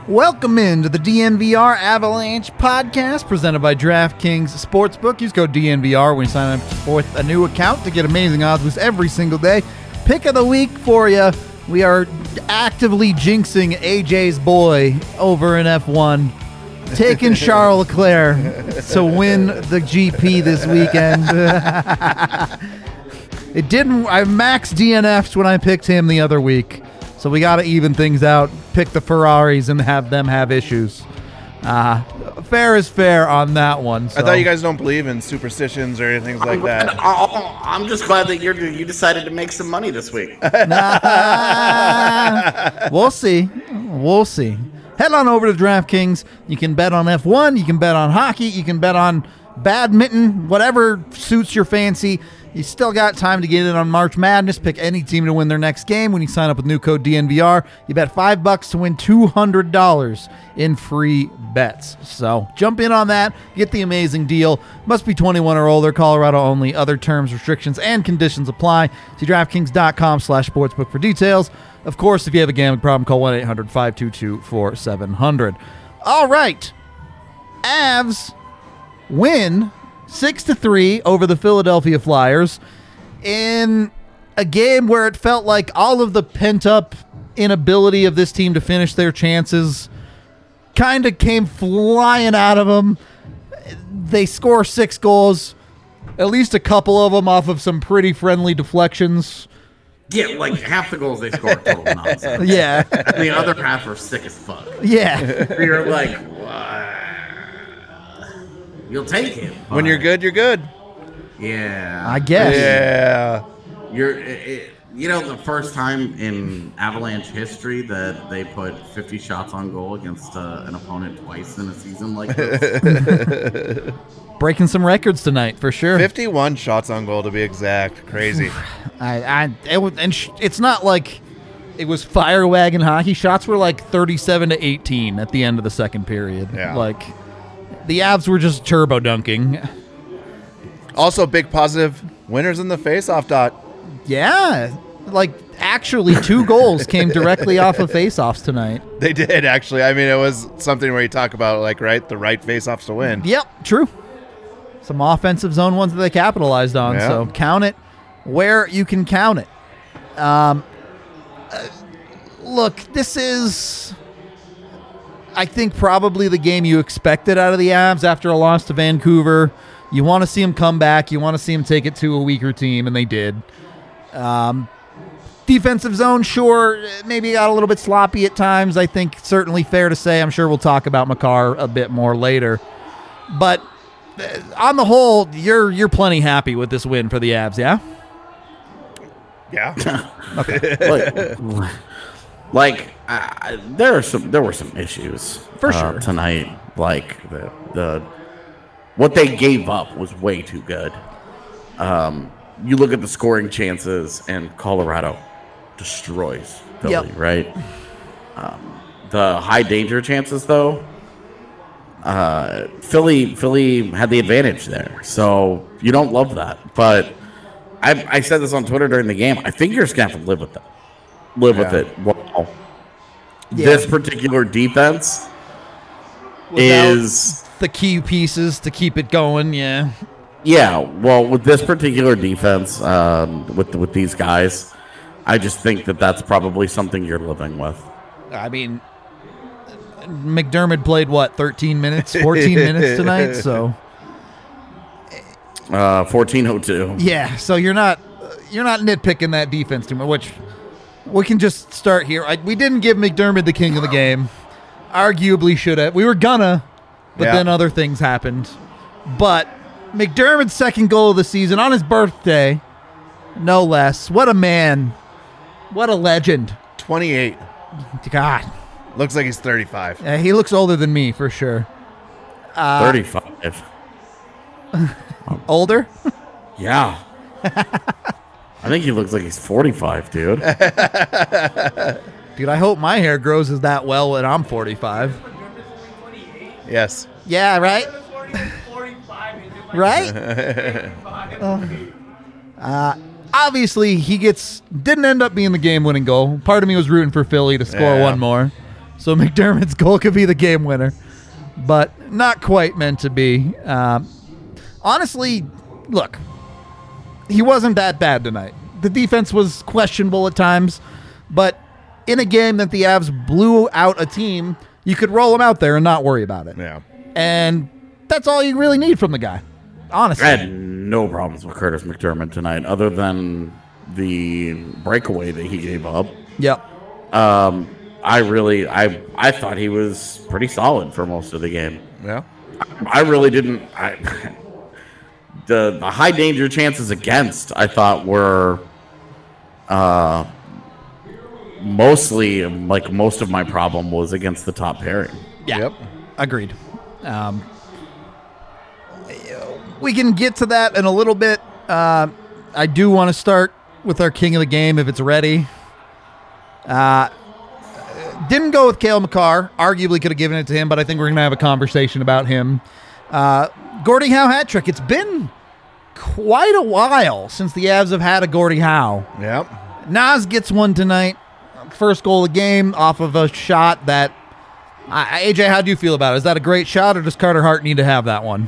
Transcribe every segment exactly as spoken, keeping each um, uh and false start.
Welcome into the D N V R Avalanche podcast presented by DraftKings Sportsbook. Use code D N V R when you sign up with a new account to get amazing odds boosts every single day. Pick of the week for you. We are actively jinxing A J's boy over in F one, taking Charles Leclerc to win the G P this weekend. It didn't. I maxed D N Fs when I picked him the other week. So we got to even things out, pick the Ferraris, and have them have issues. Uh, fair is fair on that one. So. I thought you guys don't believe in superstitions or anything like that. I'm just glad that you're, you decided to make some money this week. Nah, we'll see. We'll see. Head on over to DraftKings. You can bet on F one. You can bet on hockey. You can bet on badminton, whatever suits your fancy. You still got time to get in on March Madness. Pick any team to win their next game. When you sign up with new code D N V R, you bet five bucks to win two hundred dollars in free bets. So jump in on that. Get the amazing deal. Must be twenty-one or older. Colorado only. Other terms, restrictions, and conditions apply. See DraftKings.com slash sportsbook for details. Of course, if you have a gambling problem, call one eight hundred five two two four seven zero zero. All right. Avs win six to three over the Philadelphia Flyers in a game where it felt like all of the pent-up inability of this team to finish their chances kind of came flying out of them. They score six goals, at least a couple of them off of some pretty friendly deflections. Yeah, like half the goals they score are total nonsense. Yeah. The other half are sick as fuck. Yeah. You're like, what? You'll take him. When you're good, you're good. Yeah. I guess. Yeah. You're, it, you know, the first time in Avalanche history that they put fifty shots on goal against uh, an opponent twice in a season like this. Breaking some records tonight, for sure. fifty-one shots on goal, to be exact. Crazy. I, I, it was, and sh- it's not like it was fire wagon hockey. Shots were like thirty-seven to eighteen at the end of the second period. Yeah. Like, the Avs were just turbo dunking. Also, big positive winners in the face-off dot. Yeah. Like, actually, two goals came directly off of face-offs tonight. They did, actually. I mean, it was something where you talk about, like, right, the right face-offs to win. Yep, true. Some offensive zone ones that they capitalized on. Yeah. So count it where you can count it. Um, uh, look, this is, I think, probably the game you expected out of the Avs after a loss to Vancouver. You want to see them come back. You want to see them take it to a weaker team, and they did. Um, defensive zone, sure, maybe got a little bit sloppy at times. I think certainly fair to say. I'm sure we'll talk about Makar a bit more later. But uh, on the whole, you're you're plenty happy with this win for the Avs, yeah? Yeah. like, like uh, there are some, there were some issues For uh, sure. tonight. Like the the what they gave up was way too good. Um, you look at the scoring chances, and Colorado destroys Philly, Yep. right? Um, the high danger chances, though, uh, Philly Philly had the advantage there, so you don't love that. But I, I said this on Twitter during the game. I think you're just gonna have to live with that. Live Yeah. with it. Well, Yeah. this particular defense Without is. the key pieces to keep it going, yeah. Yeah, well, with this particular defense, um, with with these guys, I just think that that's probably something you're living with. I mean, McDermott played, what, thirteen minutes, fourteen minutes tonight? So, Uh, fourteen oh two. yeah, so you're not you're not nitpicking that defense too much, which we can just start here. I, we didn't give McDermott the king of the game. Arguably should have. We were gonna, but Yeah. then other things happened. But McDermott's second goal of the season on his birthday, no less. What a man. What a legend. twenty-eight. God. Looks like he's thirty-five. Yeah, he looks older than me, for sure. Uh, thirty-five. Older? Yeah. I think he looks like he's forty-five, dude. Dude, I hope my hair grows as that well when I'm forty-five. Yes. Yeah, right? Right? uh, uh, obviously, he gets didn't end up being the game-winning goal. Part of me was rooting for Philly to score Yeah. one more. So McDermott's goal could be the game winner, but not quite meant to be. Um, honestly, look, he wasn't that bad tonight. The defense was questionable at times, but in a game that the Avs blew out a team, you could roll him out there and not worry about it. Yeah. And that's all you really need from the guy, honestly. I had no problems with Curtis McDermott tonight, other than the breakaway that he gave up. Yep. Um, I really, I, I thought he was pretty solid for most of the game. Yeah. I, I really didn't. I, the the high danger chances against, I thought were, uh, mostly like most of my problem was against the top pairing. Yeah. Yep. Agreed. Um, we can get to that in a little bit. Uh, I do want to start with our king of the game if it's ready. Uh, didn't go with Cale Makar. Arguably could have given it to him, but I think we're going to have a conversation about him. Uh, Gordie Howe hat trick. It's been quite a while since the Avs have had a Gordie Howe. Yep. Nas gets one tonight. First goal of the game off of a shot that... Uh, A J, how do you feel about it? Is that a great shot, or does Carter Hart need to have that one?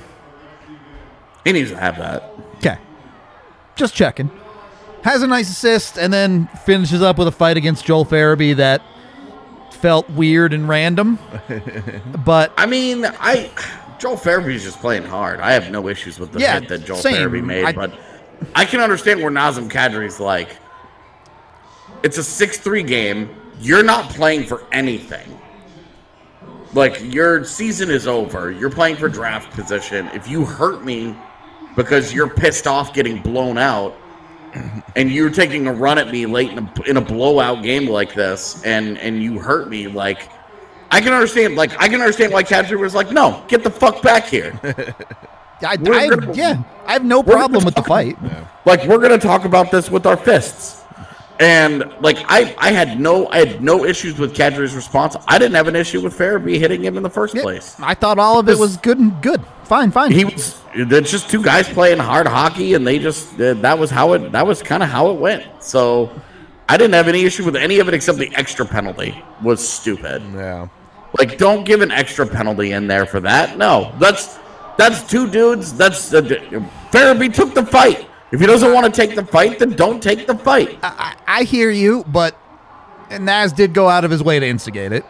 He needs to have that. Okay. Just checking. Has a nice assist, and then finishes up with a fight against Joel Farabee that felt weird and random. But I mean, I Joel Farabee's just playing hard. I have no issues with the Yeah, hit that Joel same. Farabee made, I- but I can understand where Nazem Kadri's like, it's a six three game. You're not playing for anything. Like, your season is over. You're playing for draft position. If you hurt me because you're pissed off getting blown out, and you're taking a run at me late in a, in a blowout game like this, and, and you hurt me, like, I can understand, like, I can understand why Kadri was like, no, get the fuck back here. I, We're I, gonna- yeah, I have no we're problem gonna with the talk- fight. Like, we're going to talk about this with our fists. And, like, I, I had no I had no issues with Kadri's response. I didn't have an issue with Farabee hitting him in the first Yeah, place. I thought all of it was good and good. Fine, fine. He was it's just two guys playing hard hockey, and they just uh, that was how it that was kind of how it went. So I didn't have any issue with any of it except the extra penalty was stupid. Yeah. Like, don't give an extra penalty in there for that. No, that's that's two dudes. That's uh, Farabee took the fight. If he doesn't want to take the fight, then don't take the fight. I, I hear you, but Naz did go out of his way to instigate it.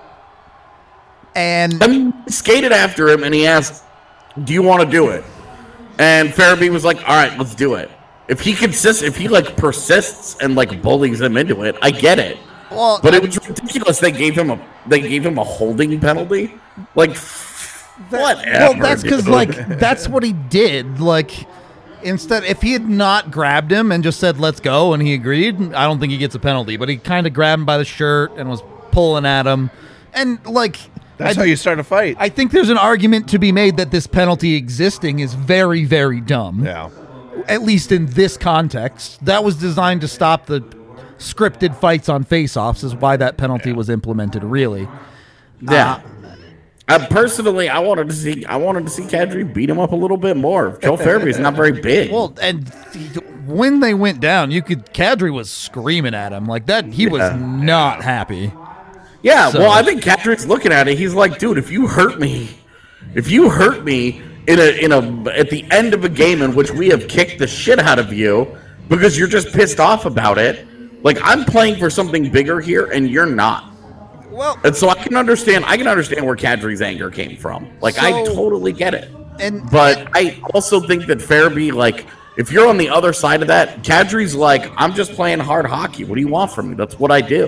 And I mean, he skated after him, and he asked, do you want to do it? And Farabee was like, all right, let's do it. If he consists, if he, like, persists and, like, bullies him into it, I get it. well, But it was ridiculous. They gave him a they gave him a holding penalty. Like, whatever. well, that's because dude. like that's what he did. Like, instead, if he had not grabbed him and just said "let's go" and he agreed, I don't think he gets a penalty. But he kind of grabbed him by the shirt and was pulling at him, and like That's I, how you start a fight. I think there's an argument to be made that this penalty existing is very, very dumb. yeah. At least in this context, that was designed to stop the scripted fights on face-offs. Is why that penalty was implemented. Really, yeah. I personally, I wanted to see I wanted to see Kadri beat him up a little bit more. Joel Farabee's not very big. well, and th- when they went down, you could Kadri was screaming at him like that. He was Yeah. not happy. Yeah, So- well, I think Kadri's looking at it. He's like, dude, if you hurt me, if you hurt me in a in a at the end of a game in which we have kicked the shit out of you because you're just pissed off about it, like, I'm playing for something bigger here, and you're not. Well, And so I can understand. I can understand where Kadri's anger came from. Like, I So- totally get it. and But I also think that Farabee, like, if you're on the other side of that, Kadri's like, I'm just playing hard hockey. What do you want from me? That's what I do.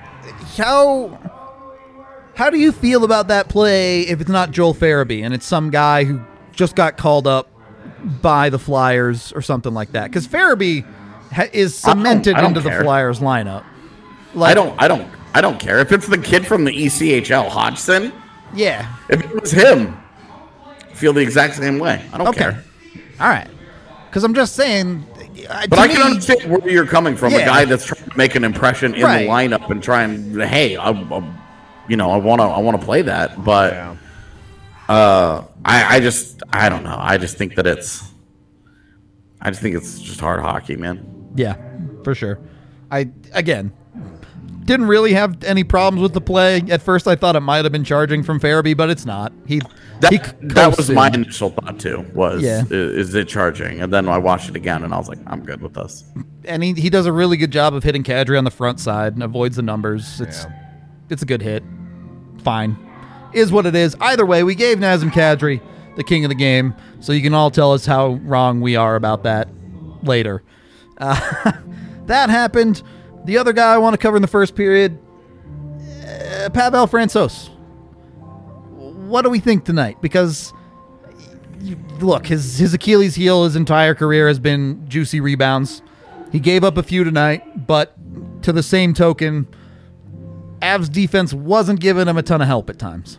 how how do you feel about that play if it's not Joel Farabee and it's some guy who just got called up by the Flyers or something like that? Because Farabee ha- is I don't- cemented I don't into the care. Flyers lineup. Like, I don't. I don't. I don't care if it's the kid from the E C H L, Hodgson. Yeah. If it was him, I feel the exact same way. I don't Okay. care. All right. Because I'm just saying. uh, But to I can me- understand where you're coming from. Yeah. A guy that's trying to make an impression in Right. the lineup and try and, hey, I, I, you know, I want to, I want to play that. But Yeah. uh, I, I just, I don't know. I just think that it's, I just think it's just hard hockey, man. Yeah, for sure. I again, didn't really have any problems with the play. At first, I thought it might have been charging from Farabee, but it's not. He That, he that was my in. initial thought too. Was Yeah. is, is it charging? And then I watched it again, and I was like, I'm good with this. And he, he does a really good job of hitting Kadri on the front side and avoids the numbers. It's Yeah. it's a good hit. Fine. Is what it is. Either way, we gave Nazem Kadri the king of the game, so you can all tell us how wrong we are about that later. Uh, that happened. The other guy I want to cover in the first period, uh, Pavel Francouz. What do we think tonight? Because, you, look, his, his Achilles heel his entire career has been juicy rebounds. He gave up a few tonight, but to the same token, Avs defense wasn't giving him a ton of help at times.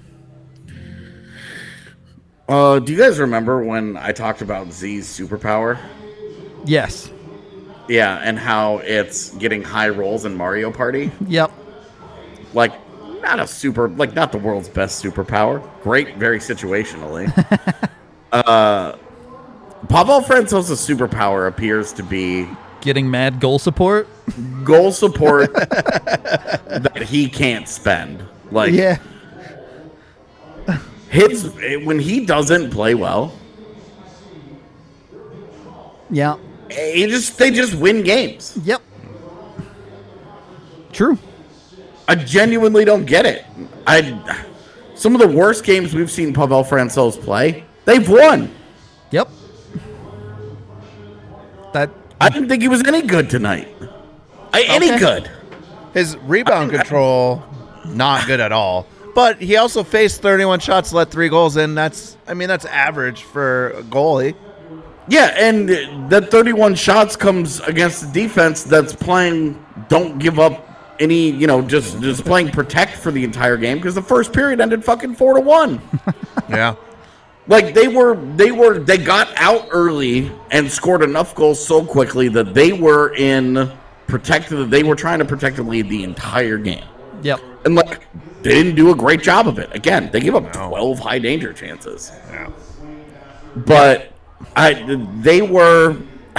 Uh, do you guys remember when I talked about Z's superpower? Yes. Yeah, and how it's getting high rolls in Mario Party. Yep. Like, not a super, like not the world's best superpower. Great, very situationally. uh, Pavel Francouz's superpower appears to be Getting mad goal support. goal support that he can't spend. Like, Yeah. his when he doesn't play well, Yeah. he just they just win games. Yep. True. I genuinely don't get it. I some of the worst games we've seen Pavel Francouz play, they've won. Yep. That I didn't think he was any good tonight. I, Any Okay. good. His rebound control, not good at all. But he also faced thirty-one shots, let three goals in. That's, I mean, that's average for a goalie. Yeah, and that thirty-one shots comes against the defense that's playing don't give up any, you know, just just playing protect for the entire game because the first period ended fucking four to one. Yeah. Like they were they were they got out early and scored enough goals so quickly that they were in protected they were trying to protect the lead the entire game. Yep. And like they didn't do a great job of it. Again, they gave up No. twelve high danger chances. Yeah. But I they were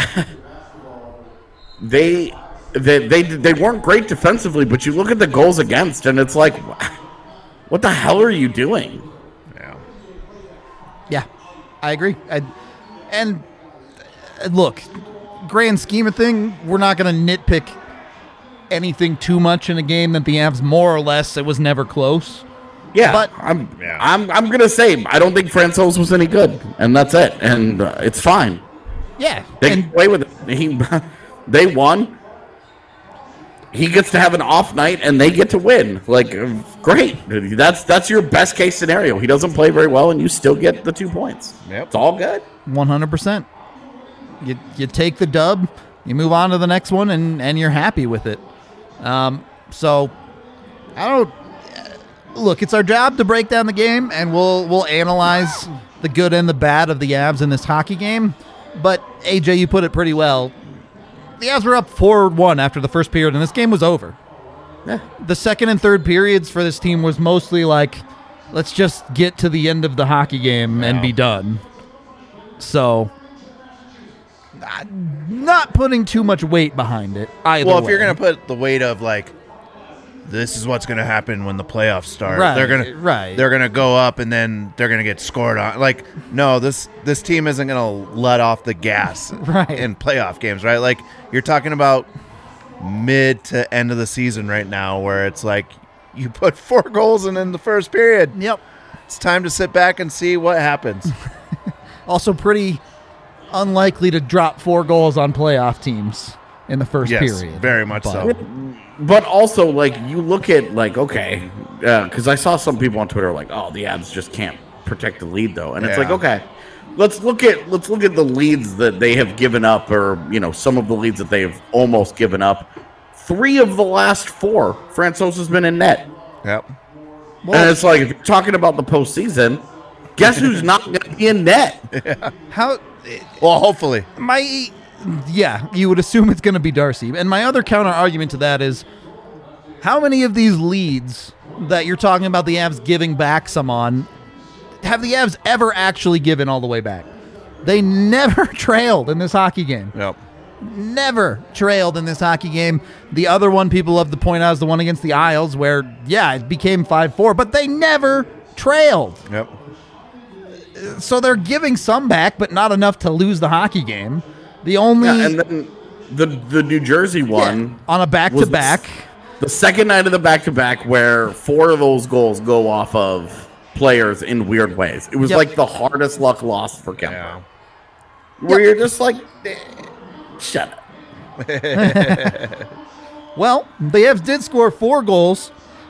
they they they they weren't great defensively, but you look at the goals against and it's like what the hell are you doing? Yeah. Yeah. I agree. I, and uh, look, grand scheme of thing, we're not going to nitpick anything too much in a game that the Avs more or less it was never close. Yeah, But- I'm Yeah. I'm I'm gonna say I don't think Francouz was any good, and that's it, and uh, it's fine. Yeah. They and can play with it. He, they won. He gets to have an off night, and they get to win. Like, uh, great. That's that's your best case scenario. He doesn't play very well, and you still get the two points. Yep. It's all good. one hundred percent. You you take the dub, you move on to the next one, and, and you're happy with it. Um, so, I don't... Look, it's our job to break down the game, and we'll we'll analyze the good and the bad of the Avs in this hockey game. But, A J, you put it pretty well. The Avs were up four one after the first period, and this game was over. Yeah. The second and third periods for this team was mostly like, let's just get to the end of the hockey game and Wow. be done. So, uh, not putting too much weight behind it either Well, if way. you're going to put the weight of, like, this is what's going to happen when the playoffs start. Right, They're gonna right. They're gonna go up and then they're gonna get scored on. Like, no, this this team isn't gonna let off the gas Right. in playoff games, right? Like, you're talking about mid to end of the season right now, where it's like you put four goals in in the first period. Yep. It's time to sit back and see what happens. Also pretty unlikely to drop four goals on playoff teams in the first Yes, period. very much But- so. But also, like, you look at, like, okay, because I saw some people on Twitter like, oh, the Avs just can't protect the lead, though. And it's Yeah. like, okay, let's look at let's look at the leads that they have given up, or, you know, some of the leads that they've almost given up. Three of the last four, Francouz has been in net. Yep. And it's like, if you're talking about the postseason, guess who's not going to be in net? How... Well, hopefully. My... Yeah, you would assume it's going to be Darcy. And my other counter argument to that is, how many of these leads that you're talking about the Avs giving back some on, have the Avs ever actually given all the way back? They never trailed in this hockey game. Yep. never trailed in this hockey game. The other one people love to point out is the one against the Isles where, yeah, it became five four, but they never trailed. Yep. So they're giving some back, but not enough to lose the hockey game. The only... Yeah, and then the, the New Jersey one... Yeah, on a back-to-back. The, the second night of the back-to-back where four of those goals go off of players in weird ways. It was Yep. like the hardest luck loss for Kemper. Yeah. Where Yep. you're just like, eh, shut up. Well, the Avs did score four goals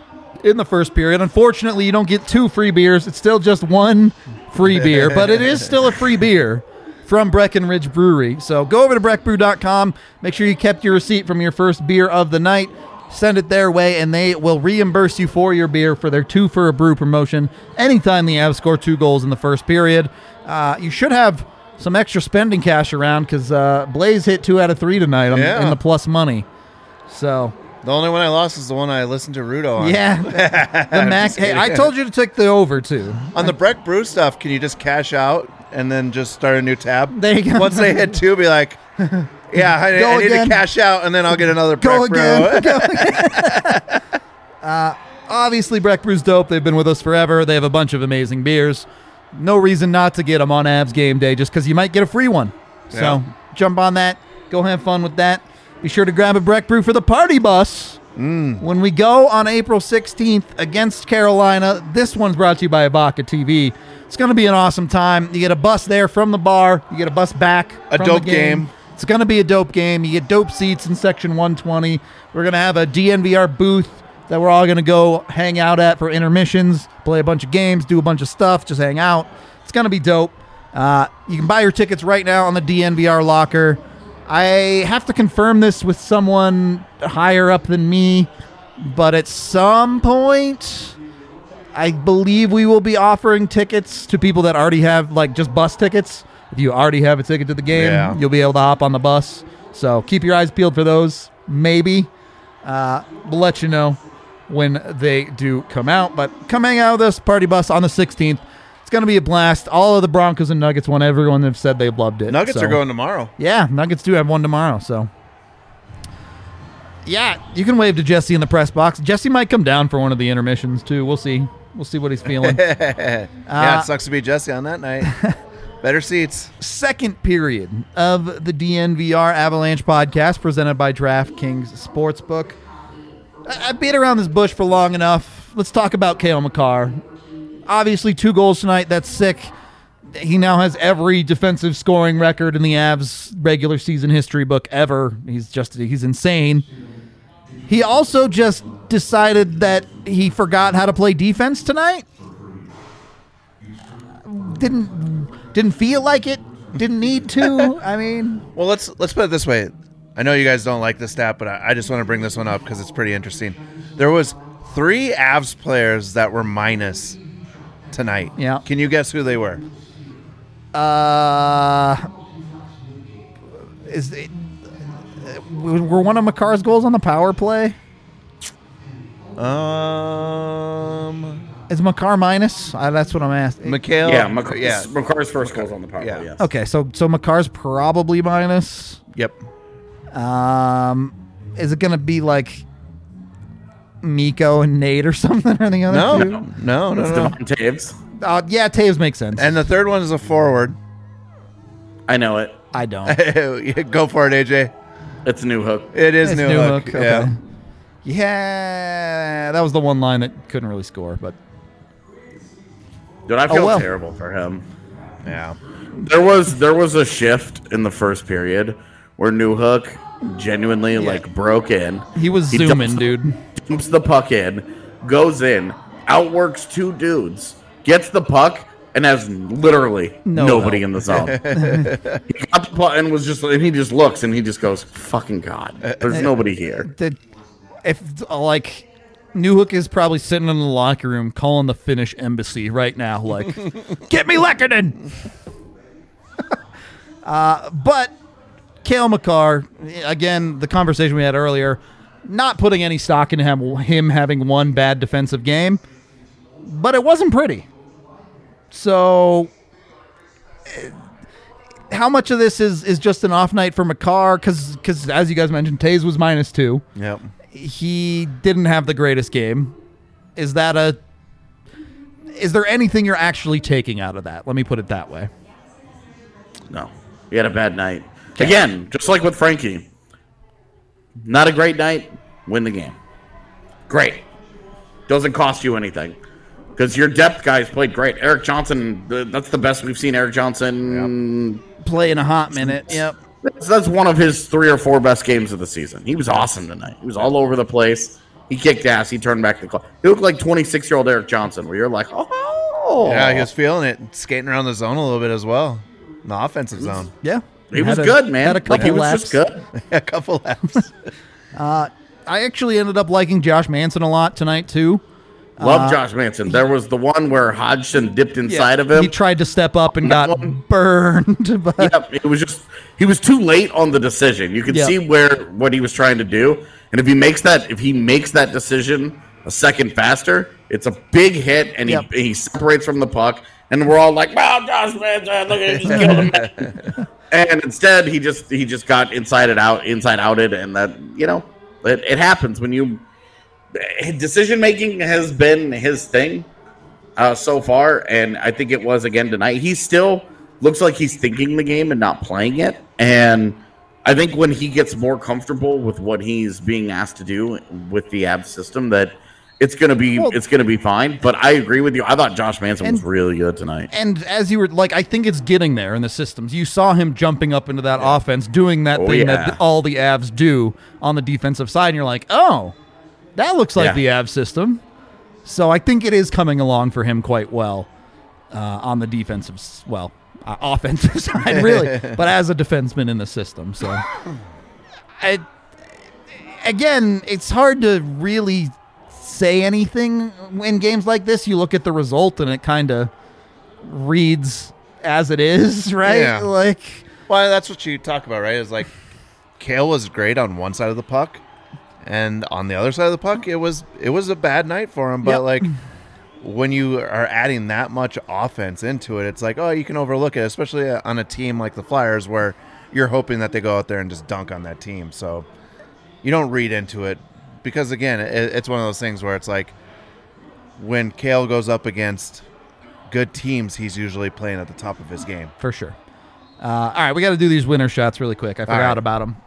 in the first period. Unfortunately, you don't get two free beers. It's still just one free beer, but it is still a free beer from Breckenridge Brewery. So go over to breck brew dot com. Make sure you kept your receipt from your first beer of the night. Send it their way, and they will reimburse you for your beer for their two for a brew promotion anytime the Avs score two goals in the first period. Uh, you should have some extra spending cash around because uh, Blaze hit two out of three tonight on, Yeah. in the plus money. So... The only one I lost is the one I listened to Rudo on. Yeah, the max. Hey, I told you to take the over too. On the Breck Brew stuff, can you just cash out and then just start a new tab? There you go. Once they hit two, be like, yeah, I, Go I need again. to cash out, and then I'll get another Go Breck again. Brew. Go again. uh, obviously, Breck Brew's dope. They've been with us forever. They have a bunch of amazing beers. No reason not to get them on Avs game day, just because you might get a free one. So Yeah. jump on that. Go have fun with that. Be sure to grab a Breck Brew for the party bus. Mm. When we go on April sixteenth against Carolina, this one's brought to you by Abaca T V. It's going to be an awesome time. You get a bus there from the bar. You get a bus back. A from dope the game. game. It's going to be a dope game. You get dope seats in section one twenty. We're going to have a D N V R booth that we're all going to go hang out at for intermissions, play a bunch of games, do a bunch of stuff, just hang out. It's going to be dope. Uh, you can buy your tickets right now on the D N V R locker. I have to confirm this with someone higher up than me, but at some point, I believe we will be offering tickets to people that already have, like, just bus tickets. If you already have a ticket to the game, Yeah. you'll be able to hop on the bus. So keep your eyes peeled for those. Maybe. Uh, we'll let you know when they do come out. But come hang out with us, Party Bus, on the sixteenth. It's going to be a blast. All of the Broncos and Nuggets won. Everyone have said they've loved it. Nuggets So- are going tomorrow. Yeah, Nuggets do have one tomorrow, so. Yeah, you can wave to Jesse in the press box. Jesse might come down for one of the intermissions, too. We'll see. We'll see what he's feeling. yeah, Uh, it sucks to be Jesse on that night. Better seats. Second period of the D N V R Avalanche podcast presented by DraftKings Sportsbook. I- I've beat around this bush for long enough. Let's talk about Cale Makar. Obviously, two goals tonight. That's sick. He now has every defensive scoring record in the Avs regular season history book ever. He's just, he's insane. He also just decided that he forgot how to play defense tonight. Didn't didn't feel like it. Didn't need to. I mean, Well, let's let's put it this way. I know you guys don't like this stat, but I, I just want to bring this one up because it's pretty interesting. There was three Avs players that were minus tonight. Yeah. Can you guess who they were? uh, is it, were one of Makar's goals on the power play? Um, Is Makar minus? Uh, that's what I'm asking. Mikhail. Yeah, Mac- yeah. McCarr's first goals on the power Yeah. play, yes. Okay, so so Makar's probably minus. Yep. Um, is it gonna be like Miko and Nate or something or the other No, two? no, no, It's no. Devon Taves. Uh, yeah, Taves makes sense. And the third one is a forward. I know it. I don't. Go for it, A J. It's New Hook. It is It's New, New Hook. Hook, Yeah. okay. Yeah, that was the one line that couldn't really score, but Dude, I feel Oh, well. terrible for him. Yeah. There was there was a shift in the first period where New Hook genuinely like broke in. he was He zooming, dumps- dude. Dumps the puck in, goes in, outworks two dudes, gets the puck, and has literally No nobody help. in the zone. He got the puck and was just and he just looks and he just goes, "Fucking God, there's nobody here." The, if like New Hook is probably sitting in the locker room calling the Finnish embassy right now, like, "Get me Lekkonen!" uh, but Cale Makar, again, the conversation we had earlier, not putting any stock in him, him having one bad defensive game, but it wasn't pretty. So, eh, how much of this is, is just an off night for McCarr? Because because as you guys mentioned, Taze was minus two. Yep. He didn't have the greatest game. Is that a? Is there anything you're actually taking out of that? Let me put it that way. No, he had a bad night. Again, just like with Frankie, not a great night. Win the game. Great. Doesn't cost you anything. Because your depth guys played great. Eric Johnson, that's the best we've seen Eric Johnson yep. play in a hot minute. Yep. That's, that's one of his three or four best games of the season. He was awesome tonight. He was all over the place. He kicked ass. He turned back the clock. He looked like twenty-six-year-old Eric Johnson, where you're like, oh. Yeah, he was feeling it. Skating around the zone a little bit as well. In the offensive zone. Yeah. He was a, good, man. Had a couple like, he was laps. just good. a couple laps. uh, I actually ended up liking Josh Manson a lot tonight, too. Love uh, Josh Manson. There was the one where Hodgson dipped inside yeah, of him. He tried to step up and got one. burned. But Yep, it was just he was too late on the decision. You could yep. see where what he was trying to do, and if he makes that if he makes that decision a second faster, it's a big hit, and yep. he he separates from the puck, and we're all like, "Wow, Josh Manson, look at he killed him!" And instead, he just he just got inside it out, inside outed, and that you know it, it happens when you. Decision making has been his thing uh, so far, and I think it was again tonight. He still looks like he's thinking the game and not playing it. And I think when he gets more comfortable with what he's being asked to do with the Avs system, that it's gonna be well, it's gonna be fine. But I agree with you. I thought Josh Manson and, was really good tonight. And as you were like, I think it's getting there in the systems. You saw him jumping up into that yeah. offense, doing that oh, thing yeah. that all the Avs do on the defensive side, and you're like, oh. That looks like yeah. the Avs system. So I think it is coming along for him quite well uh, on the defensive, well, uh, offensive side, really, but as a defenseman in the system. So, I, again, it's hard to really say anything in games like this. You look at the result and it kind of reads as it is, right? Yeah. Like, well, that's what you talk about, right? Is like Cale was great on one side of the puck. And on the other side of the puck, it was it was a bad night for him. But, yep. like, when you are adding that much offense into it, it's like, oh, you can overlook it, especially on a team like the Flyers where you're hoping that they go out there and just dunk on that team. So you don't read into it because, again, it, it's one of those things where it's like when Cale goes up against good teams, he's usually playing at the top of his game. For sure. Uh, all right, we got to do these winner shots really quick. I forgot right. about them.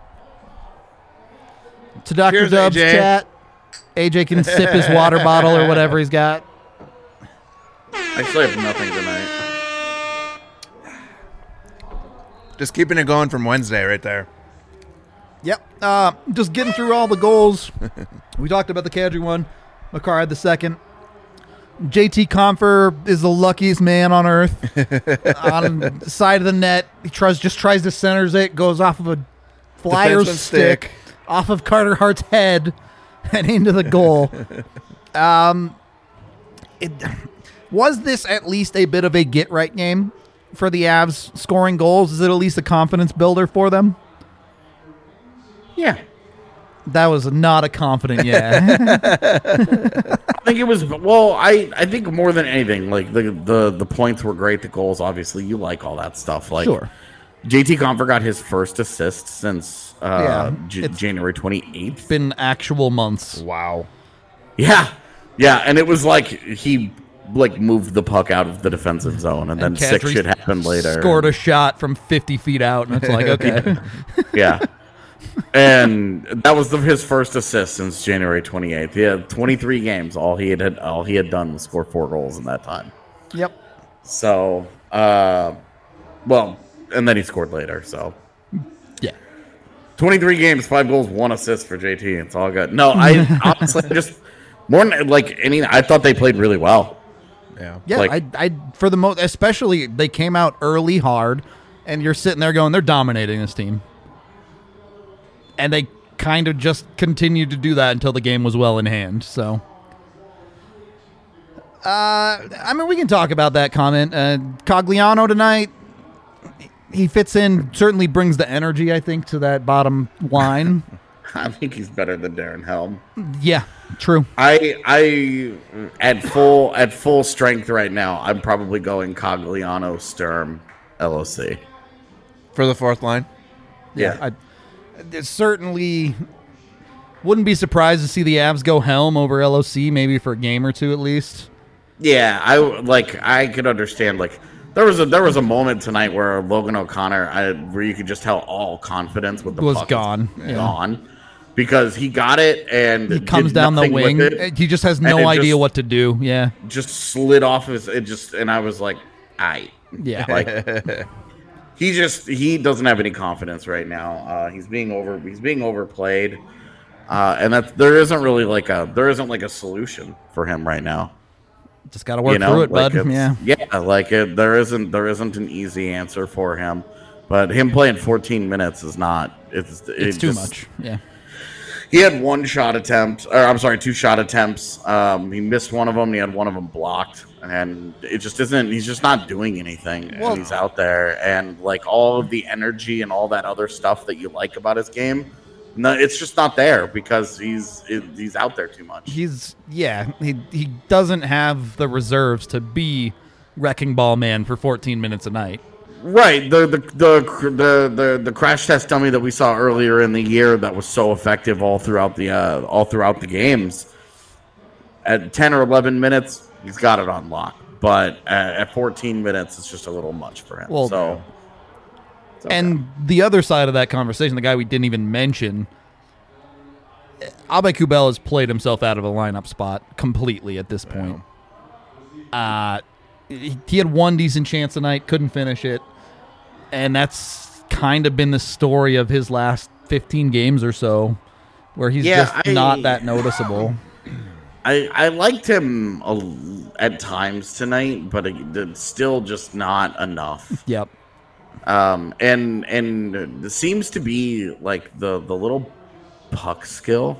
To Doctor Cheers, Dub's A J. chat. A J can sip his water bottle or whatever he's got. I still have nothing tonight. Just keeping it going from Wednesday right there. Yep. Uh, just getting through all the goals. We talked about the Kadri one. McCarr had the second. J T Compher is the luckiest man on earth. On the side of the net, he tries just tries to centers it, goes off of a Flyers stick. stick. Off of Carter Hart's head and into the goal. Um, it, was this at least a bit of a get-right game for the Avs scoring goals? Is it at least a confidence builder for them? Yeah. That was not a confident yeah. I think it was, well, I, I think more than anything, like the, the, the points were great, the goals, obviously, you like all that stuff. Like, sure. J T Compher got his first assist since uh, yeah, J- January twenty-eighth. Been actual months. Wow. Yeah. Yeah, and it was like he like moved the puck out of the defensive zone, and, and then sick shit happened later. Scored a shot from fifty feet out, and it's like, okay. Yeah. And that was the, his first assist since January twenty-eighth. He had twenty-three games. All he had all he had done was score four goals in that time. Yep. So, uh, well, and then he scored later. So, yeah, twenty-three games, five goals, one assist for J T. It's all good. No, I honestly just more than, like any. I thought they played really well. Yeah, yeah. Like, I, I for the most, especially they came out early hard, and you're sitting there going, they're dominating this team. And they kind of just continued to do that until the game was well in hand. So, uh, I mean, we can talk about that comment. Uh, Cogliano tonight, he fits in, certainly brings the energy, I think, to that bottom line. I think he's better than Darren Helm. Yeah, true. I, I, at full at full strength right now, I'm probably going Cogliano, Sturm, L O C. For the fourth line? Yeah. I, I certainly wouldn't be surprised to see the Avs go Helm over L O C maybe for a game or two at least. Yeah, I like. I could understand. Like there was a there was a moment tonight where Logan O'Connor, I, where you could just tell all confidence with the Was puck gone. is Yeah. gone because he got it and He comes did down the nothing with wing. it, He just has and no it idea just- what to do. Yeah. just slid off his. It just and I was like, I Yeah. like. He just he doesn't have any confidence right now. Uh, he's being over he's being overplayed, uh, and that there isn't really like a there isn't like a solution for him right now. Just got to work you know, through it, like bud. it's- Yeah. yeah, like it, there isn't there isn't an easy answer for him. But him playing fourteen minutes is not. It's it It's too just- much. Yeah. He had one shot attempt, or I'm sorry, two shot attempts. Um, he missed one of them. He had one of them blocked, and it just isn't. He's just not doing anything Well- when he's out there, and like all of the energy and all that other stuff that you like about his game, no, it's just not there because he's it, he's out there too much. He's yeah. He he doesn't have the reserves to be wrecking ball man for fourteen minutes a night. Right, the the, the the the the crash test dummy that we saw earlier in the year that was so effective all throughout the uh, all throughout the games. At ten or eleven minutes, he's got it on lock, but at, at fourteen minutes, it's just a little much for him. Well, so, it's okay. And the other side of that conversation, the guy we didn't even mention, Abe Kubel has played himself out of a lineup spot completely at this point. Uh, he, he had one decent chance tonight, couldn't finish it. And that's kind of been the story of his last fifteen games or so, where he's Yeah, just I- not that noticeable. I I liked him a, at times tonight, but it, it's still just not enough. Yep. Um, and and it seems to be like the the little puck skill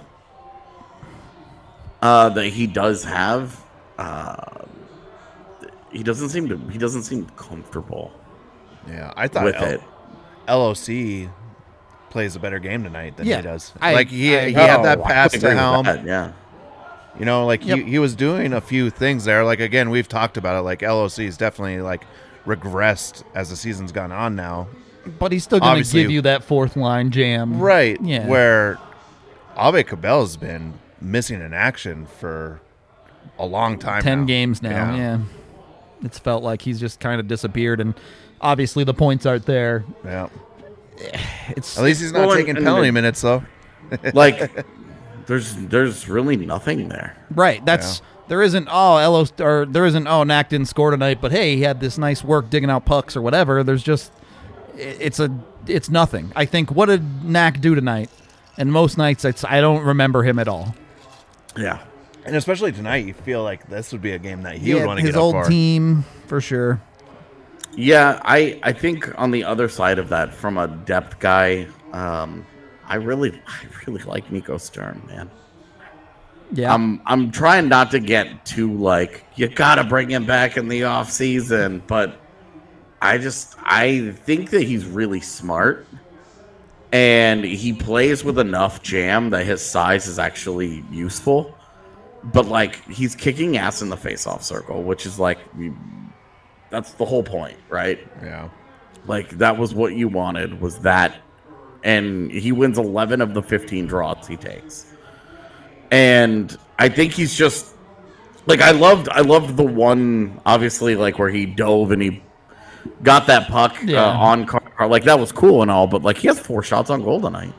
uh, that he does have. Uh, he doesn't seem to. He doesn't seem comfortable Yeah, I thought with L- it. L O C plays a better game tonight than Yeah, he does. I- like he I- he had Oh, that I pass would to agree with Helm. that, yeah. You know, like Yep. he, he was doing a few things there. Like again, we've talked about it. Like L O C is definitely like regressed as the season's gone on now. But he's still going to Obviously- give you that fourth line jam. Right. Yeah. Where Abe Cabell's been missing in action for a long time. ten now. games now. Yeah. It's felt like he's just kind of disappeared, and obviously the points aren't there. Yeah. It's At least he's not Well, and- taking and penalty the- minutes though. Like there's there's really nothing there. right. That's there isn't oh Elo or there isn't oh Knack didn't score tonight, but hey, he had this nice work digging out pucks or whatever. There's just it's a it's nothing. I think what did Knack do tonight? And most nights it's I don't remember him at all. Yeah. And especially tonight, you feel like this would be a game that he would Yeah, want to his get up old for. team for sure. Yeah, I, I think on the other side of that, from a depth guy, um, I really I really like Nico Sturm, man. Yeah. I'm I'm trying not to get too like you gotta bring him back in the off season, but I just I think that he's really smart, and he plays with enough jam that his size is actually useful. But like he's kicking ass in the face-off circle, which is like that's the whole point, right? Yeah. Like that was what you wanted was that, and he wins eleven of the fifteen draws he takes. And I think he's just like I loved I loved the one obviously like where he dove and he got that puck Yeah. uh, on car, like that was cool and all, but like he has four shots on goal tonight.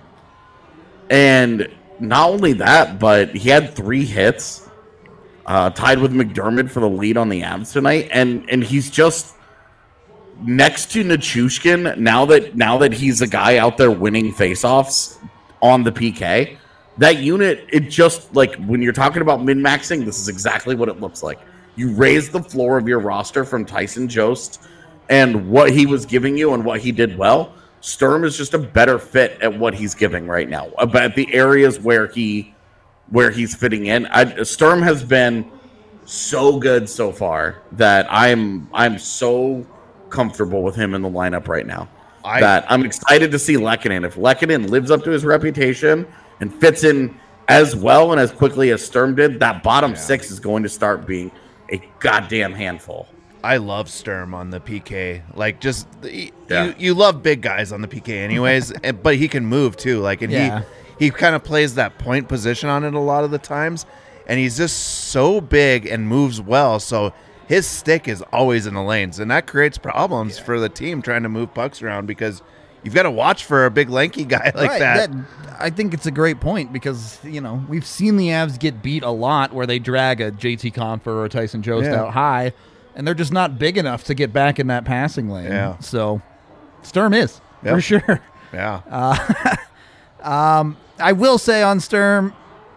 And not only that, but he had three hits, uh, tied with McDermott for the lead on the Avs tonight, and and he's just next to Nichushkin now that now that he's a guy out there winning faceoffs on the P K. That unit, it just like when you're talking about min-maxing, this is exactly what it looks like. You raise the floor of your roster from Tyson Jost and what he was giving you and what he did well. Sturm is just a better fit at what he's giving right now. About the areas where he where he's fitting in. I, Sturm has been so good so far that I'm I'm so comfortable with him in the lineup right now. I- that I'm excited to see Lehkonen. If Lehkonen lives up to his reputation and fits in as well and as quickly as Sturm did, that bottom Yeah. six is going to start being a goddamn handful. I love Sturm on the P K. Like, just the, Yeah. you, you love big guys on the P K, anyways. and, but he can move too. Like, and Yeah. he he kind of plays that point position on it a lot of the times, and he's just so big and moves well. So his stick is always in the lanes, and that creates problems for the team trying to move pucks around because you've got to watch for a big lanky guy like Right, that. I think it's a great point because, you know, we've seen the Avs get beat a lot where they drag a J T Confer or a Tyson Jost Yeah. out high, and they're just not big enough to get back in that passing lane. Yeah. So Sturm is, Yep. for sure. Yeah. I will say on Sturm,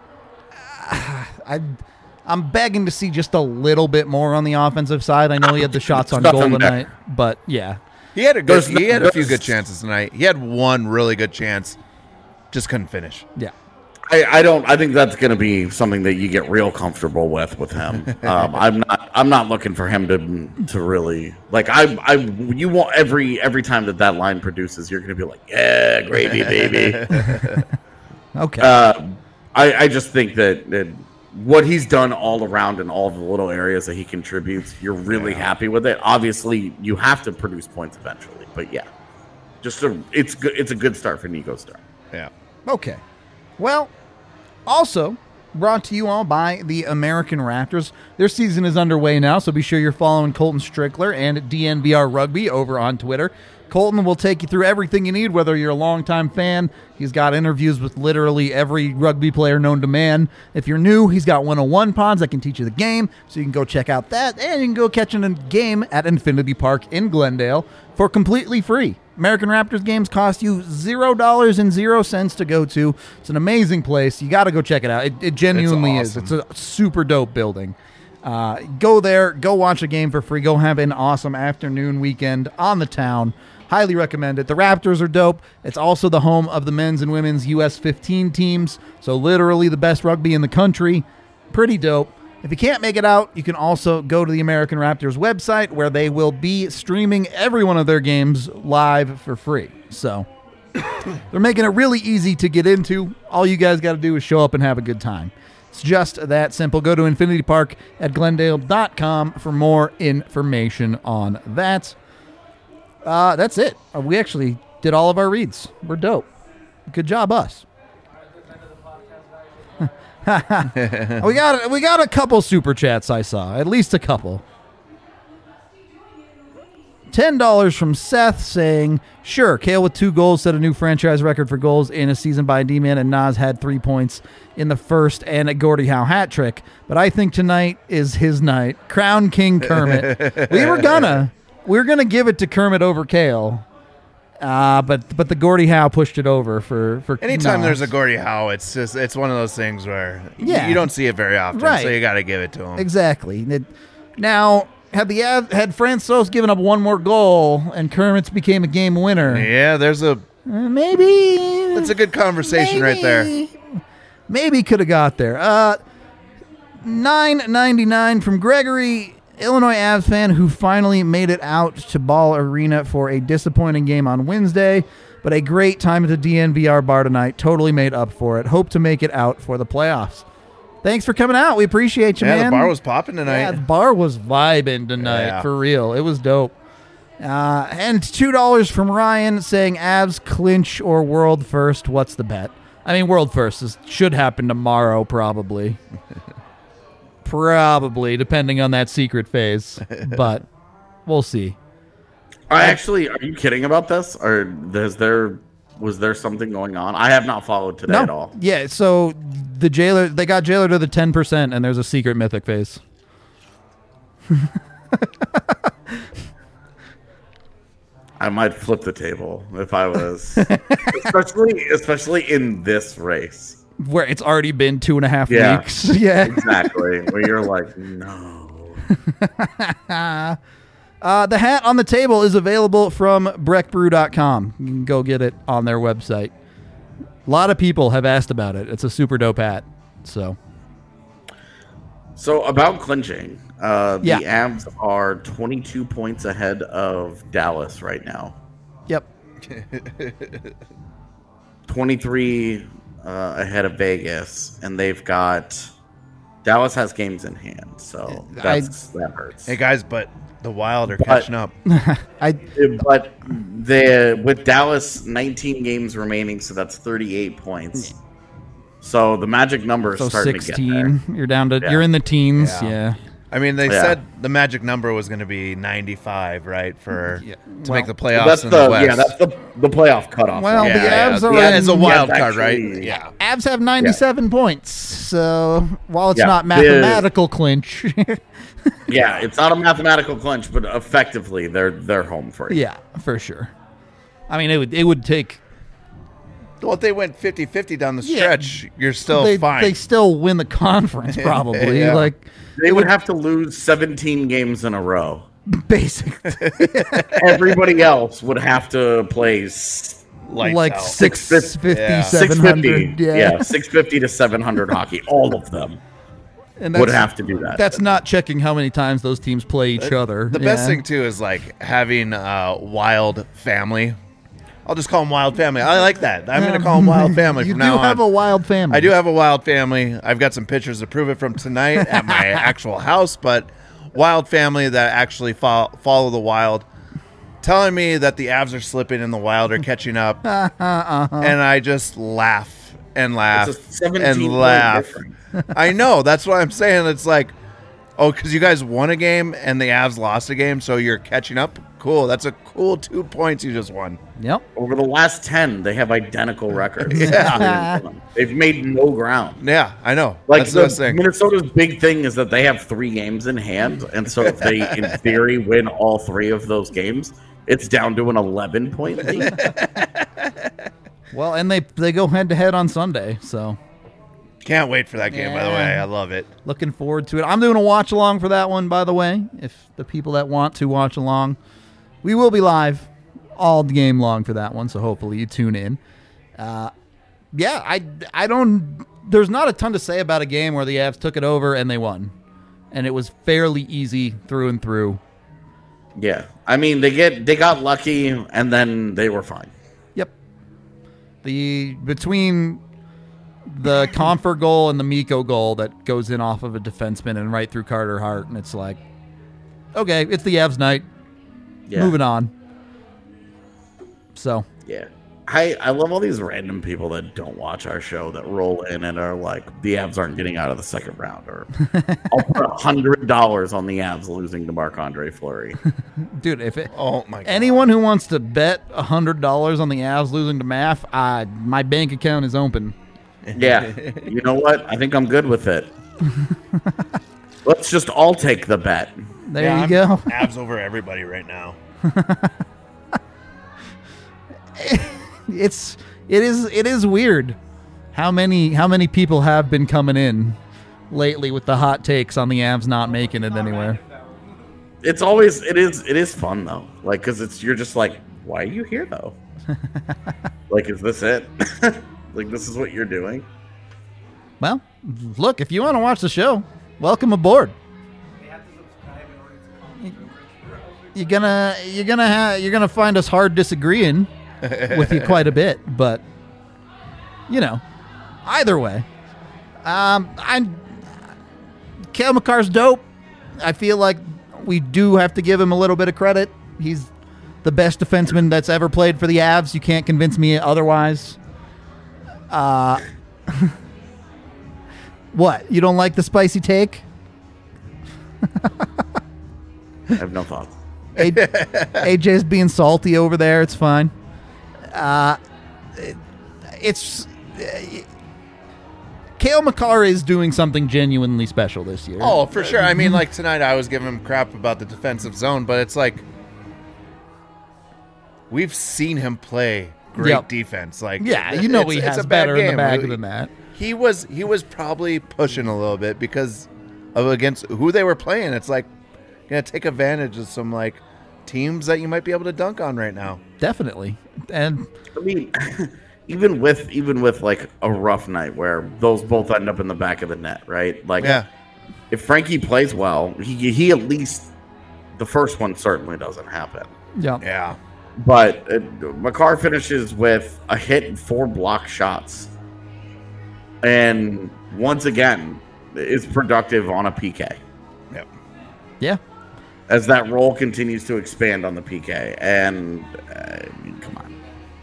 I, I'm begging to see just a little bit more on the offensive side. I know he had the shots on goal Nothing there. tonight, but yeah. He had a good, There's he no- had a few there's- good chances tonight. He had one really good chance, just couldn't finish. Yeah. I, I don't. I think that's going to be something that you get real comfortable with with him. Um, I'm not. I'm not looking for him to to really like. I. I. You want every every time that that line produces, you're going to be like, yeah, gravy, baby. Okay. uh, I. I just think that, that what he's done all around in all the little areas that he contributes, you're really Yeah. happy with it. Obviously, you have to produce points eventually, but yeah, just a. It's good. It's a good start for Nico Star. Yeah. Okay. Well, also brought to you all by the American Raptors. Their season is underway now, so be sure you're following Colton Strickler and D N V R Rugby over on Twitter. Colton will take you through everything you need, whether you're a longtime fan. He's got interviews with literally every rugby player known to man. If you're new, he's got one oh one pods that can teach you the game, so you can go check out that, and you can go catch a game at Infinity Park in Glendale for completely free. American Raptors games cost you zero dollars and zero cents to go to. It's an amazing place. You got to go check it out. It, it genuinely It's is. It's a super dope building. Uh, go there, go watch a game for free. Go have an awesome afternoon weekend on the town. Highly recommend it. The Raptors are dope. It's also the home of the men's and women's U S fifteen teams, so literally the best rugby in the country. Pretty dope. If you can't make it out, you can also go to the American Raptors website where they will be streaming every one of their games live for free. So they're making it really easy to get into. All you guys got to do is show up and have a good time. It's just that simple. Go to Infinity Park at Glendale dot com for more information on that. Uh, that's it. Uh, we actually did all of our reads. We're dope. Good job, us. we got we got a couple super chats I saw, at least a couple. Ten dollars from Seth saying, "Sure, Kale with two goals set a new franchise record for goals in a season by a D-man, and Nas had three points in the first and a Gordie Howe hat trick. But I think tonight is his night. Crown King Kermit. we were gonna we were gonna give it to Kermit over Kale, uh, but but the Gordie Howe pushed it over for for Anytime Nas. there's a Gordie Howe, it's just it's one of those things where Yeah. you, you don't see it very often, Right. so you got to give it to him. Exactly. It- now, had the Av- had Francois given up one more goal and Kermit's became a game winner, Yeah, there's a uh, maybe that's a good conversation right there. maybe- Maybe could have got there. Uh, nine ninety nine from Gregory, Illinois Avs fan who finally made it out to Ball Arena for a disappointing game on Wednesday, but a great time at the D N V R bar tonight. Totally made up for it. Hope to make it out for the playoffs. Thanks for coming out. We appreciate you, Yeah, man. the bar was popping tonight. Yeah, the bar was vibing tonight, Yeah. for real. It was dope. Uh, and two dollars from Ryan saying Avs clinch or world first. What's the bet? I mean, world first is, should happen tomorrow, probably. Probably, depending on that secret phase. But we'll see. I actually, are you kidding about this? Or is there was there something going on? I have not followed today at all. Yeah, so the jailer, they got jailer to the ten percent, and there's a secret mythic phase. I might flip the table if I was, especially especially in this race. Where it's already been two and a half Yeah. weeks. Yeah. Exactly, where you're like, no. Uh, the hat on the table is available from breck brew dot com. You can go get it on their website. A lot of people have asked about it. It's a super dope hat. So, So about clinching, uh, the Yeah. Avs are twenty-two points ahead of Dallas right now. yep. twenty-three uh, ahead of Vegas, and they've got Dallas has games in hand, so that's, that hurts. Hey guys, but The Wild are But- catching up. I But the with Dallas nineteen games remaining, so that's thirty-eight points. So the magic number is so starting to get sixteen. there. You're down to. Yeah. You're in the teens. Yeah. Yeah. I mean, they Yeah. said the magic number was going to be ninety-five, right, for Yeah. to Well, make the playoffs That's in the, the West. yeah, that's the the playoff cutoff. Well, line. the yeah, Avs yeah. are yeah, in- as a wild Avs card, right? actually- Yeah. Avs have ninety-seven points. So while it's Yeah. not The- mathematical clinch, Yeah, it's not a mathematical clinch, but effectively they're they're home free. yeah, for sure. I mean, it would it would take. Well, if they went fifty-fifty down the Yeah. stretch, you're still they, fine. they still win the conference probably. Yeah. Like They would have to lose seventeen games in a row. basically Everybody else would have to play s- Lights like out. six Six fifty, Yeah. seven six fifty. hundred. Yeah, Yeah, six fifty to seven hundred hockey. All of them and would that's, have to do that. that's not checking how many times those teams play each other. The best Yeah. thing too is like having a wild family. I'll just call them Wild Family. I like that. I'm going to call them Wild Family You from do now have on. a wild family. I do have a Wild Family. I've got some pictures to prove it from tonight at my actual house, but Wild Family that actually fo- follow the Wild, telling me that the Avs are slipping and the Wild are catching up, Uh-huh. and I just laugh and laugh It's a seventeen and point laugh. difference. I know. That's what I'm saying. It's like, oh, because you guys won a game and the Avs lost a game, so you're catching up. Cool. That's a cool two points you just won. Yep. Over the last ten, they have identical records. Yeah. They've made no ground. Yeah, I know. Like That's the best the, thing. Minnesota's big thing is that they have three games in hand, and so if they, in theory, win all three of those games, it's down to an eleven point lead. Well, and they they go head to head on Sunday, so Can't wait for that game, by the way. I love it. looking forward to it. I'm doing a watch along for that one, by the way. If the people that want to watch along, we will be live all game long for that one, so hopefully you tune in. Uh, yeah, I I don't. There's not a ton to say about a game where the Avs took it over and they won, and it was fairly easy through and through. Yeah, I mean they get they got lucky, and then they were fine. Yep. The between the Comfort goal and the Miko goal that goes in off of a defenseman and right through Carter Hart, and it's like, okay, it's the Avs night. Yeah. Moving on. So Yeah. I, I love all these random people that don't watch our show that roll in and are like, the Avs aren't getting out of the second round, or I'll put a hundred dollars on the Avs losing to Marc-Andre Fleury. dude, if it, Oh, my God. anyone who wants to bet a hundred dollars on the Avs losing to M A F, uh, my bank account is open. Yeah. You know what? I think I'm good with it. Let's just all take the bet. There Yeah, you I'm go. Avs over everybody right now. It's it is it is weird how many how many people have been coming in lately with the hot takes on the Avs not making it anywhere. It's always it is it is fun though, like because it's you're just like, why are you here though? Like, is this it? Like, this is what you're doing? Well, look, if you want to watch the show, welcome aboard. You're gonna you're gonna ha- you're gonna find us hard disagreeing with you quite a bit, but you know, either way, um, I'm Cale Makar's dope. I feel like we do have to give him a little bit of credit. He's the best defenseman that's ever played for the Avs. You can't convince me otherwise. Uh, what? You don't like the spicy take? I have no thoughts. A J's being salty over there. It's fine. Uh, it, it's uh, Cale Makar is doing something genuinely special this year. Oh, for sure. I mean, like tonight I was giving him crap about the defensive zone, but it's like we've seen him play great Yep. defense. Like, yeah, you know it's- he it's has a bad better in the game. bag than that. He was he was probably pushing a little bit because of against who they were playing. It's like gonna take advantage of some like teams that you might be able to dunk on right now. Definitely, and I mean, even with even with like a rough night where those both end up in the back of the net, right? Like, Yeah. if Frankie plays well, he he at least the first one certainly doesn't happen. yeah, Yeah. But uh, Makar finishes with a hit and four block shots, and once again is productive on a P K. Yep. yeah. as that role continues to expand on the P K. And uh, I mean, come on.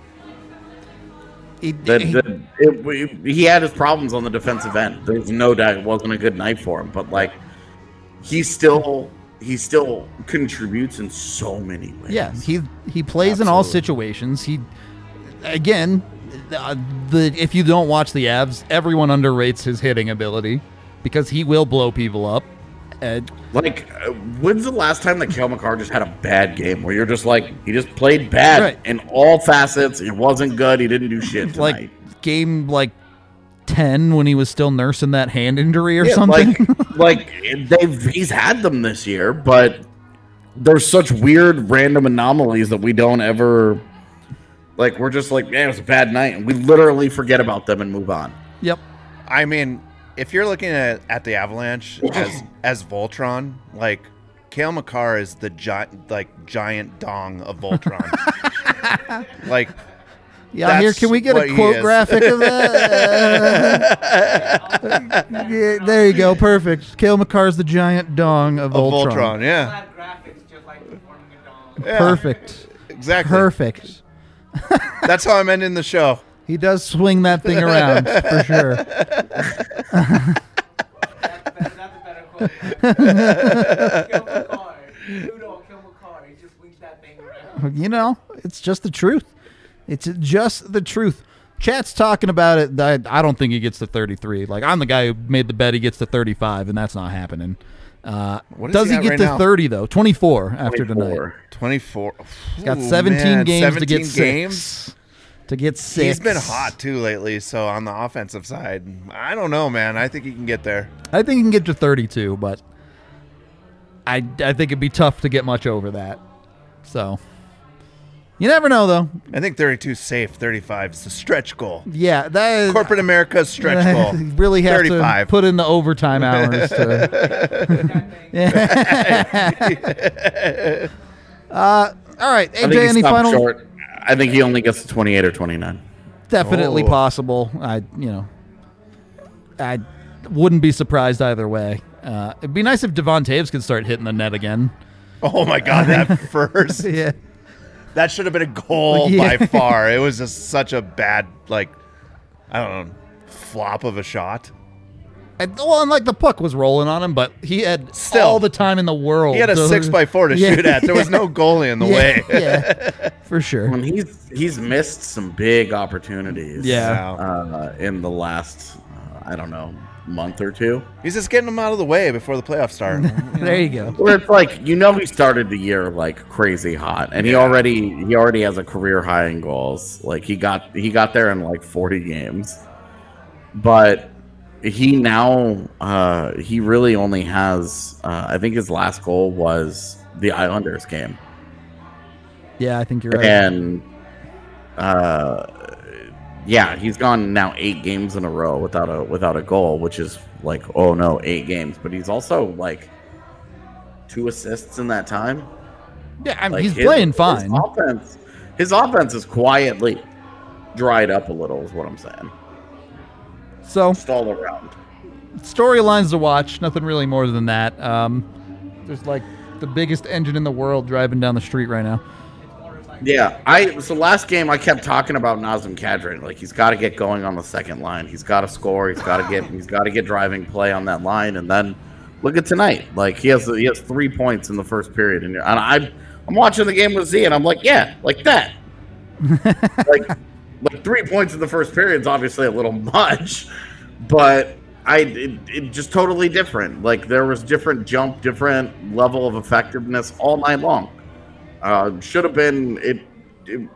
He, The, he- the, it, he had his problems on the defensive end. There's no doubt it wasn't a good night for him, but like he still he still contributes in so many ways. yeah, he he plays in all Absolutely. situations. He again, uh, the if you don't watch the Avs, everyone underrates his hitting ability because he will blow people up. And Like, uh, when's the last time that Cale Makar just had a bad game where you're just like, he just played bad Right. in all facets. It wasn't good. He didn't do shit tonight. like game like ten when he was still nursing that hand injury or Yeah, something. Like, like they've he's had them this year, but there's such weird random anomalies that we don't ever like. We're just like, man, it was a bad night, and we literally forget about them and move on. Yep. I mean, if you're looking at, at the Avalanche as as Voltron, like Cale Makar is the giant, like giant dong of Voltron. like, Yeah, here, That's can we get what a he quote is. graphic of that? Yeah, there you go. Perfect. Cale Makar's the giant dong of of Voltron. Voltron, yeah, Flat graphics just like performing a dong. yeah, Perfect. exactly. Perfect. That's how I'm ending the show. He does swing that thing around for sure. That's, better, that's a better quote. Kill McCarr. Ludo, kill McCarr. He just swings that thing around. You know, it's just the truth. It's just the truth. Chat's talking about it. I, I don't think he gets to thirty-three. Like, I'm the guy who made the bet he gets to thirty-five, and that's not happening. Uh, What is does he he at get right to now? thirty, though? twenty-four after tonight. twenty-four. twenty-four. He's got Ooh, seventeen man, games to get seventeen six. games. To get six. He's been hot too lately. So on the offensive side, I don't know, man. I think he can get there. I think he can get to thirty-two, but I, I think it'd be tough to get much over that. So, you never know, though. I think thirty-two is safe. thirty-five is the stretch goal. Yeah, that is, Corporate America's stretch goal. You really have thirty-five. to put in the overtime hours. To, uh, all right, I think A J, he any stopped final? short. I think he only gets to twenty-eight or twenty-nine. Definitely Oh. possible. I, you know, I wouldn't be surprised either way. Uh, it'd be nice if Devon Taves could start hitting the net again. Oh my god, that first Yeah. that should have been a goal Yeah. by far. It was just such a bad, like, I don't know, flop of a shot. And, well, and like the puck was rolling on him, but he had Still. all the time in the world. He had a to- six by four to Yeah, shoot at. There was yeah. no goalie in the yeah, way. yeah, for sure. When he's he's missed some big opportunities. Yeah. Uh, in the last, uh, I don't know, month or two. He's just getting them out of the way before the playoffs start. There you go. Where it's like, you know, he started the year like crazy hot, and he Yeah. already he already has a career high in goals. Like he got he got there in like forty games, but he now uh, he really only has uh, I think his last goal was the Islanders game, Yeah, I think you're right. and uh, yeah, he's gone now eight games in a row without a without a goal, which is like, oh no, eight games. But he's also like two assists in that time. Yeah, I mean, Like, he's his- playing his fine. offense, his offense is quietly dried up a little, is what I'm saying. So, Just all around. storylines to watch. Nothing really more than that. Um, there's like the biggest engine in the world driving down the street right now. Yeah, I so last game I kept talking about Nazem Kadri. Like he's got to get going on the second line. He's got to score. He's got to get. He's got to get driving play on that line. And then look at tonight. Like he has he has three points in the first period. And, and I I'm watching the game with Z, and I'm like, yeah, like that. like like three points in the first period is obviously a little much, but I it, it just totally different. Like there was different jump, different level of effectiveness all night long. Uh, should have been it, it.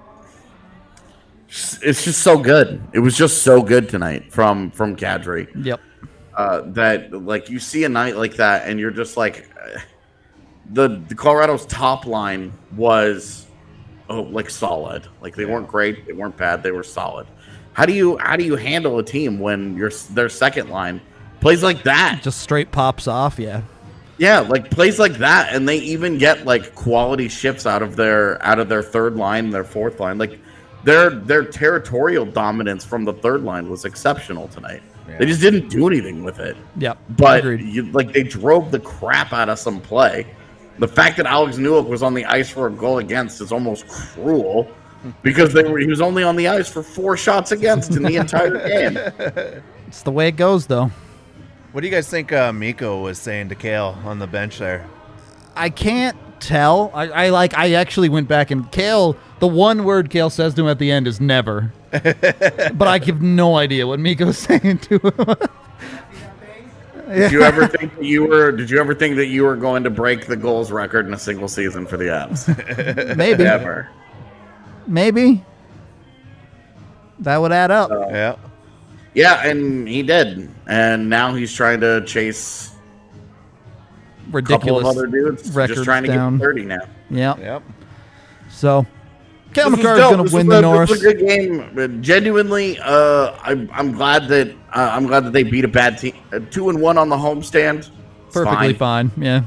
It's just so good. It was just so good tonight from from Kadri. Yep. Uh, that like you see a night like that, and you're just like, uh, the the Colorado's top line was, oh, like solid. Like they weren't great, they weren't bad, they were solid. How do you how do you handle a team when your their second line plays like that? Just straight pops off. Yeah. Yeah, like plays like that, and they even get like quality shifts out of their out of their third line, their fourth line. Like their their territorial dominance from the third line was exceptional tonight. Yeah. They just didn't do anything with it. Yep. But Agreed. you, like they drove the crap out of some play, The fact that Alex Newhook was on the ice for a goal against is almost cruel because they were, he was only on the ice for four shots against in the entire game. It's the way it goes, though. What do you guys think uh, Miko was saying to Kale on the bench there? I can't tell. I, I like. I actually went back and Kale. The one word Kale says to him at the end is never. But I have no idea what Miko's saying to him. Did you ever think that you were? Did you ever think that you were going to break the goals record in a single season for the Avs? Maybe. Never. Maybe. That would add up. Uh, Yeah. Yeah, and he did, and now he's trying to chase a couple Ridiculous. of other dudes, records just trying to down. get thirty now. Yeah. Yep. So, Kale This was McCarr is dope. going This to win was the a- Norris. This was a good game. Genuinely, uh, I, I'm glad that uh, I'm glad that they beat a bad team. Uh, two and one on the homestand. It's Perfectly fine. Yeah.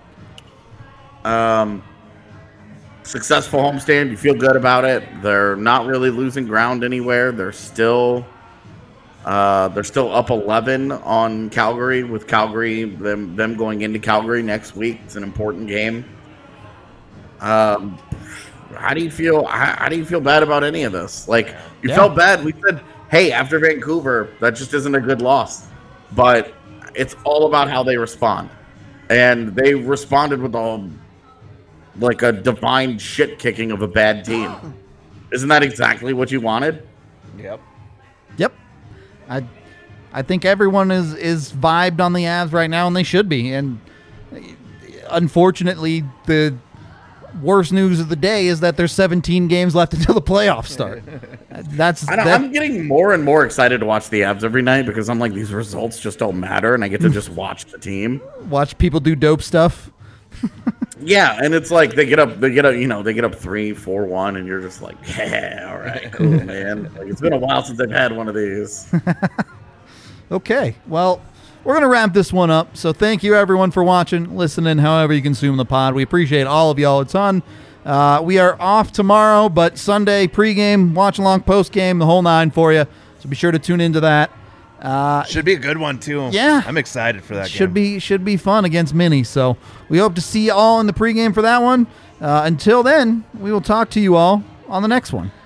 Um, successful homestand. You feel good about it. They're not really losing ground anywhere. They're still, uh, they're still up eleven on Calgary. With Calgary, them them going into Calgary next week. It's an important game. Um, how do you feel? How, how do you feel bad about any of this? Like you Yeah. felt bad. We said, hey, after Vancouver, that just isn't a good loss. But it's all about how they respond, and they responded with all like a divine shit kicking of a bad team. Isn't that exactly what you wanted? Yep. Yep. I I think everyone is is vibed on the Avs right now, and they should be. And unfortunately, the worst news of the day is that there's seventeen games left until the playoffs start. That's I don't, that, I'm getting more and more excited to watch the Avs every night because I'm like, these results just don't matter, and I get to just watch the team. watch people do dope stuff. Yeah, and it's like they get up, they get up, you know, they get up three, four, one, and you're just like, yeah, all right, cool, man. Like, it's been a while since I've had one of these. Okay, well, we're going to wrap this one up. So thank you, everyone, for watching, listening, however you consume the pod. We appreciate all of y'all a ton. Uh, we are off tomorrow, but Sunday pregame, watch along, postgame, the whole nine for you. So be sure to tune into that. Uh, Should be a good one too. Yeah. I'm excited for that should game. be should be fun against Mini. So we hope to see you all in the pregame for that one. Uh, until then, we will talk to you all on the next one.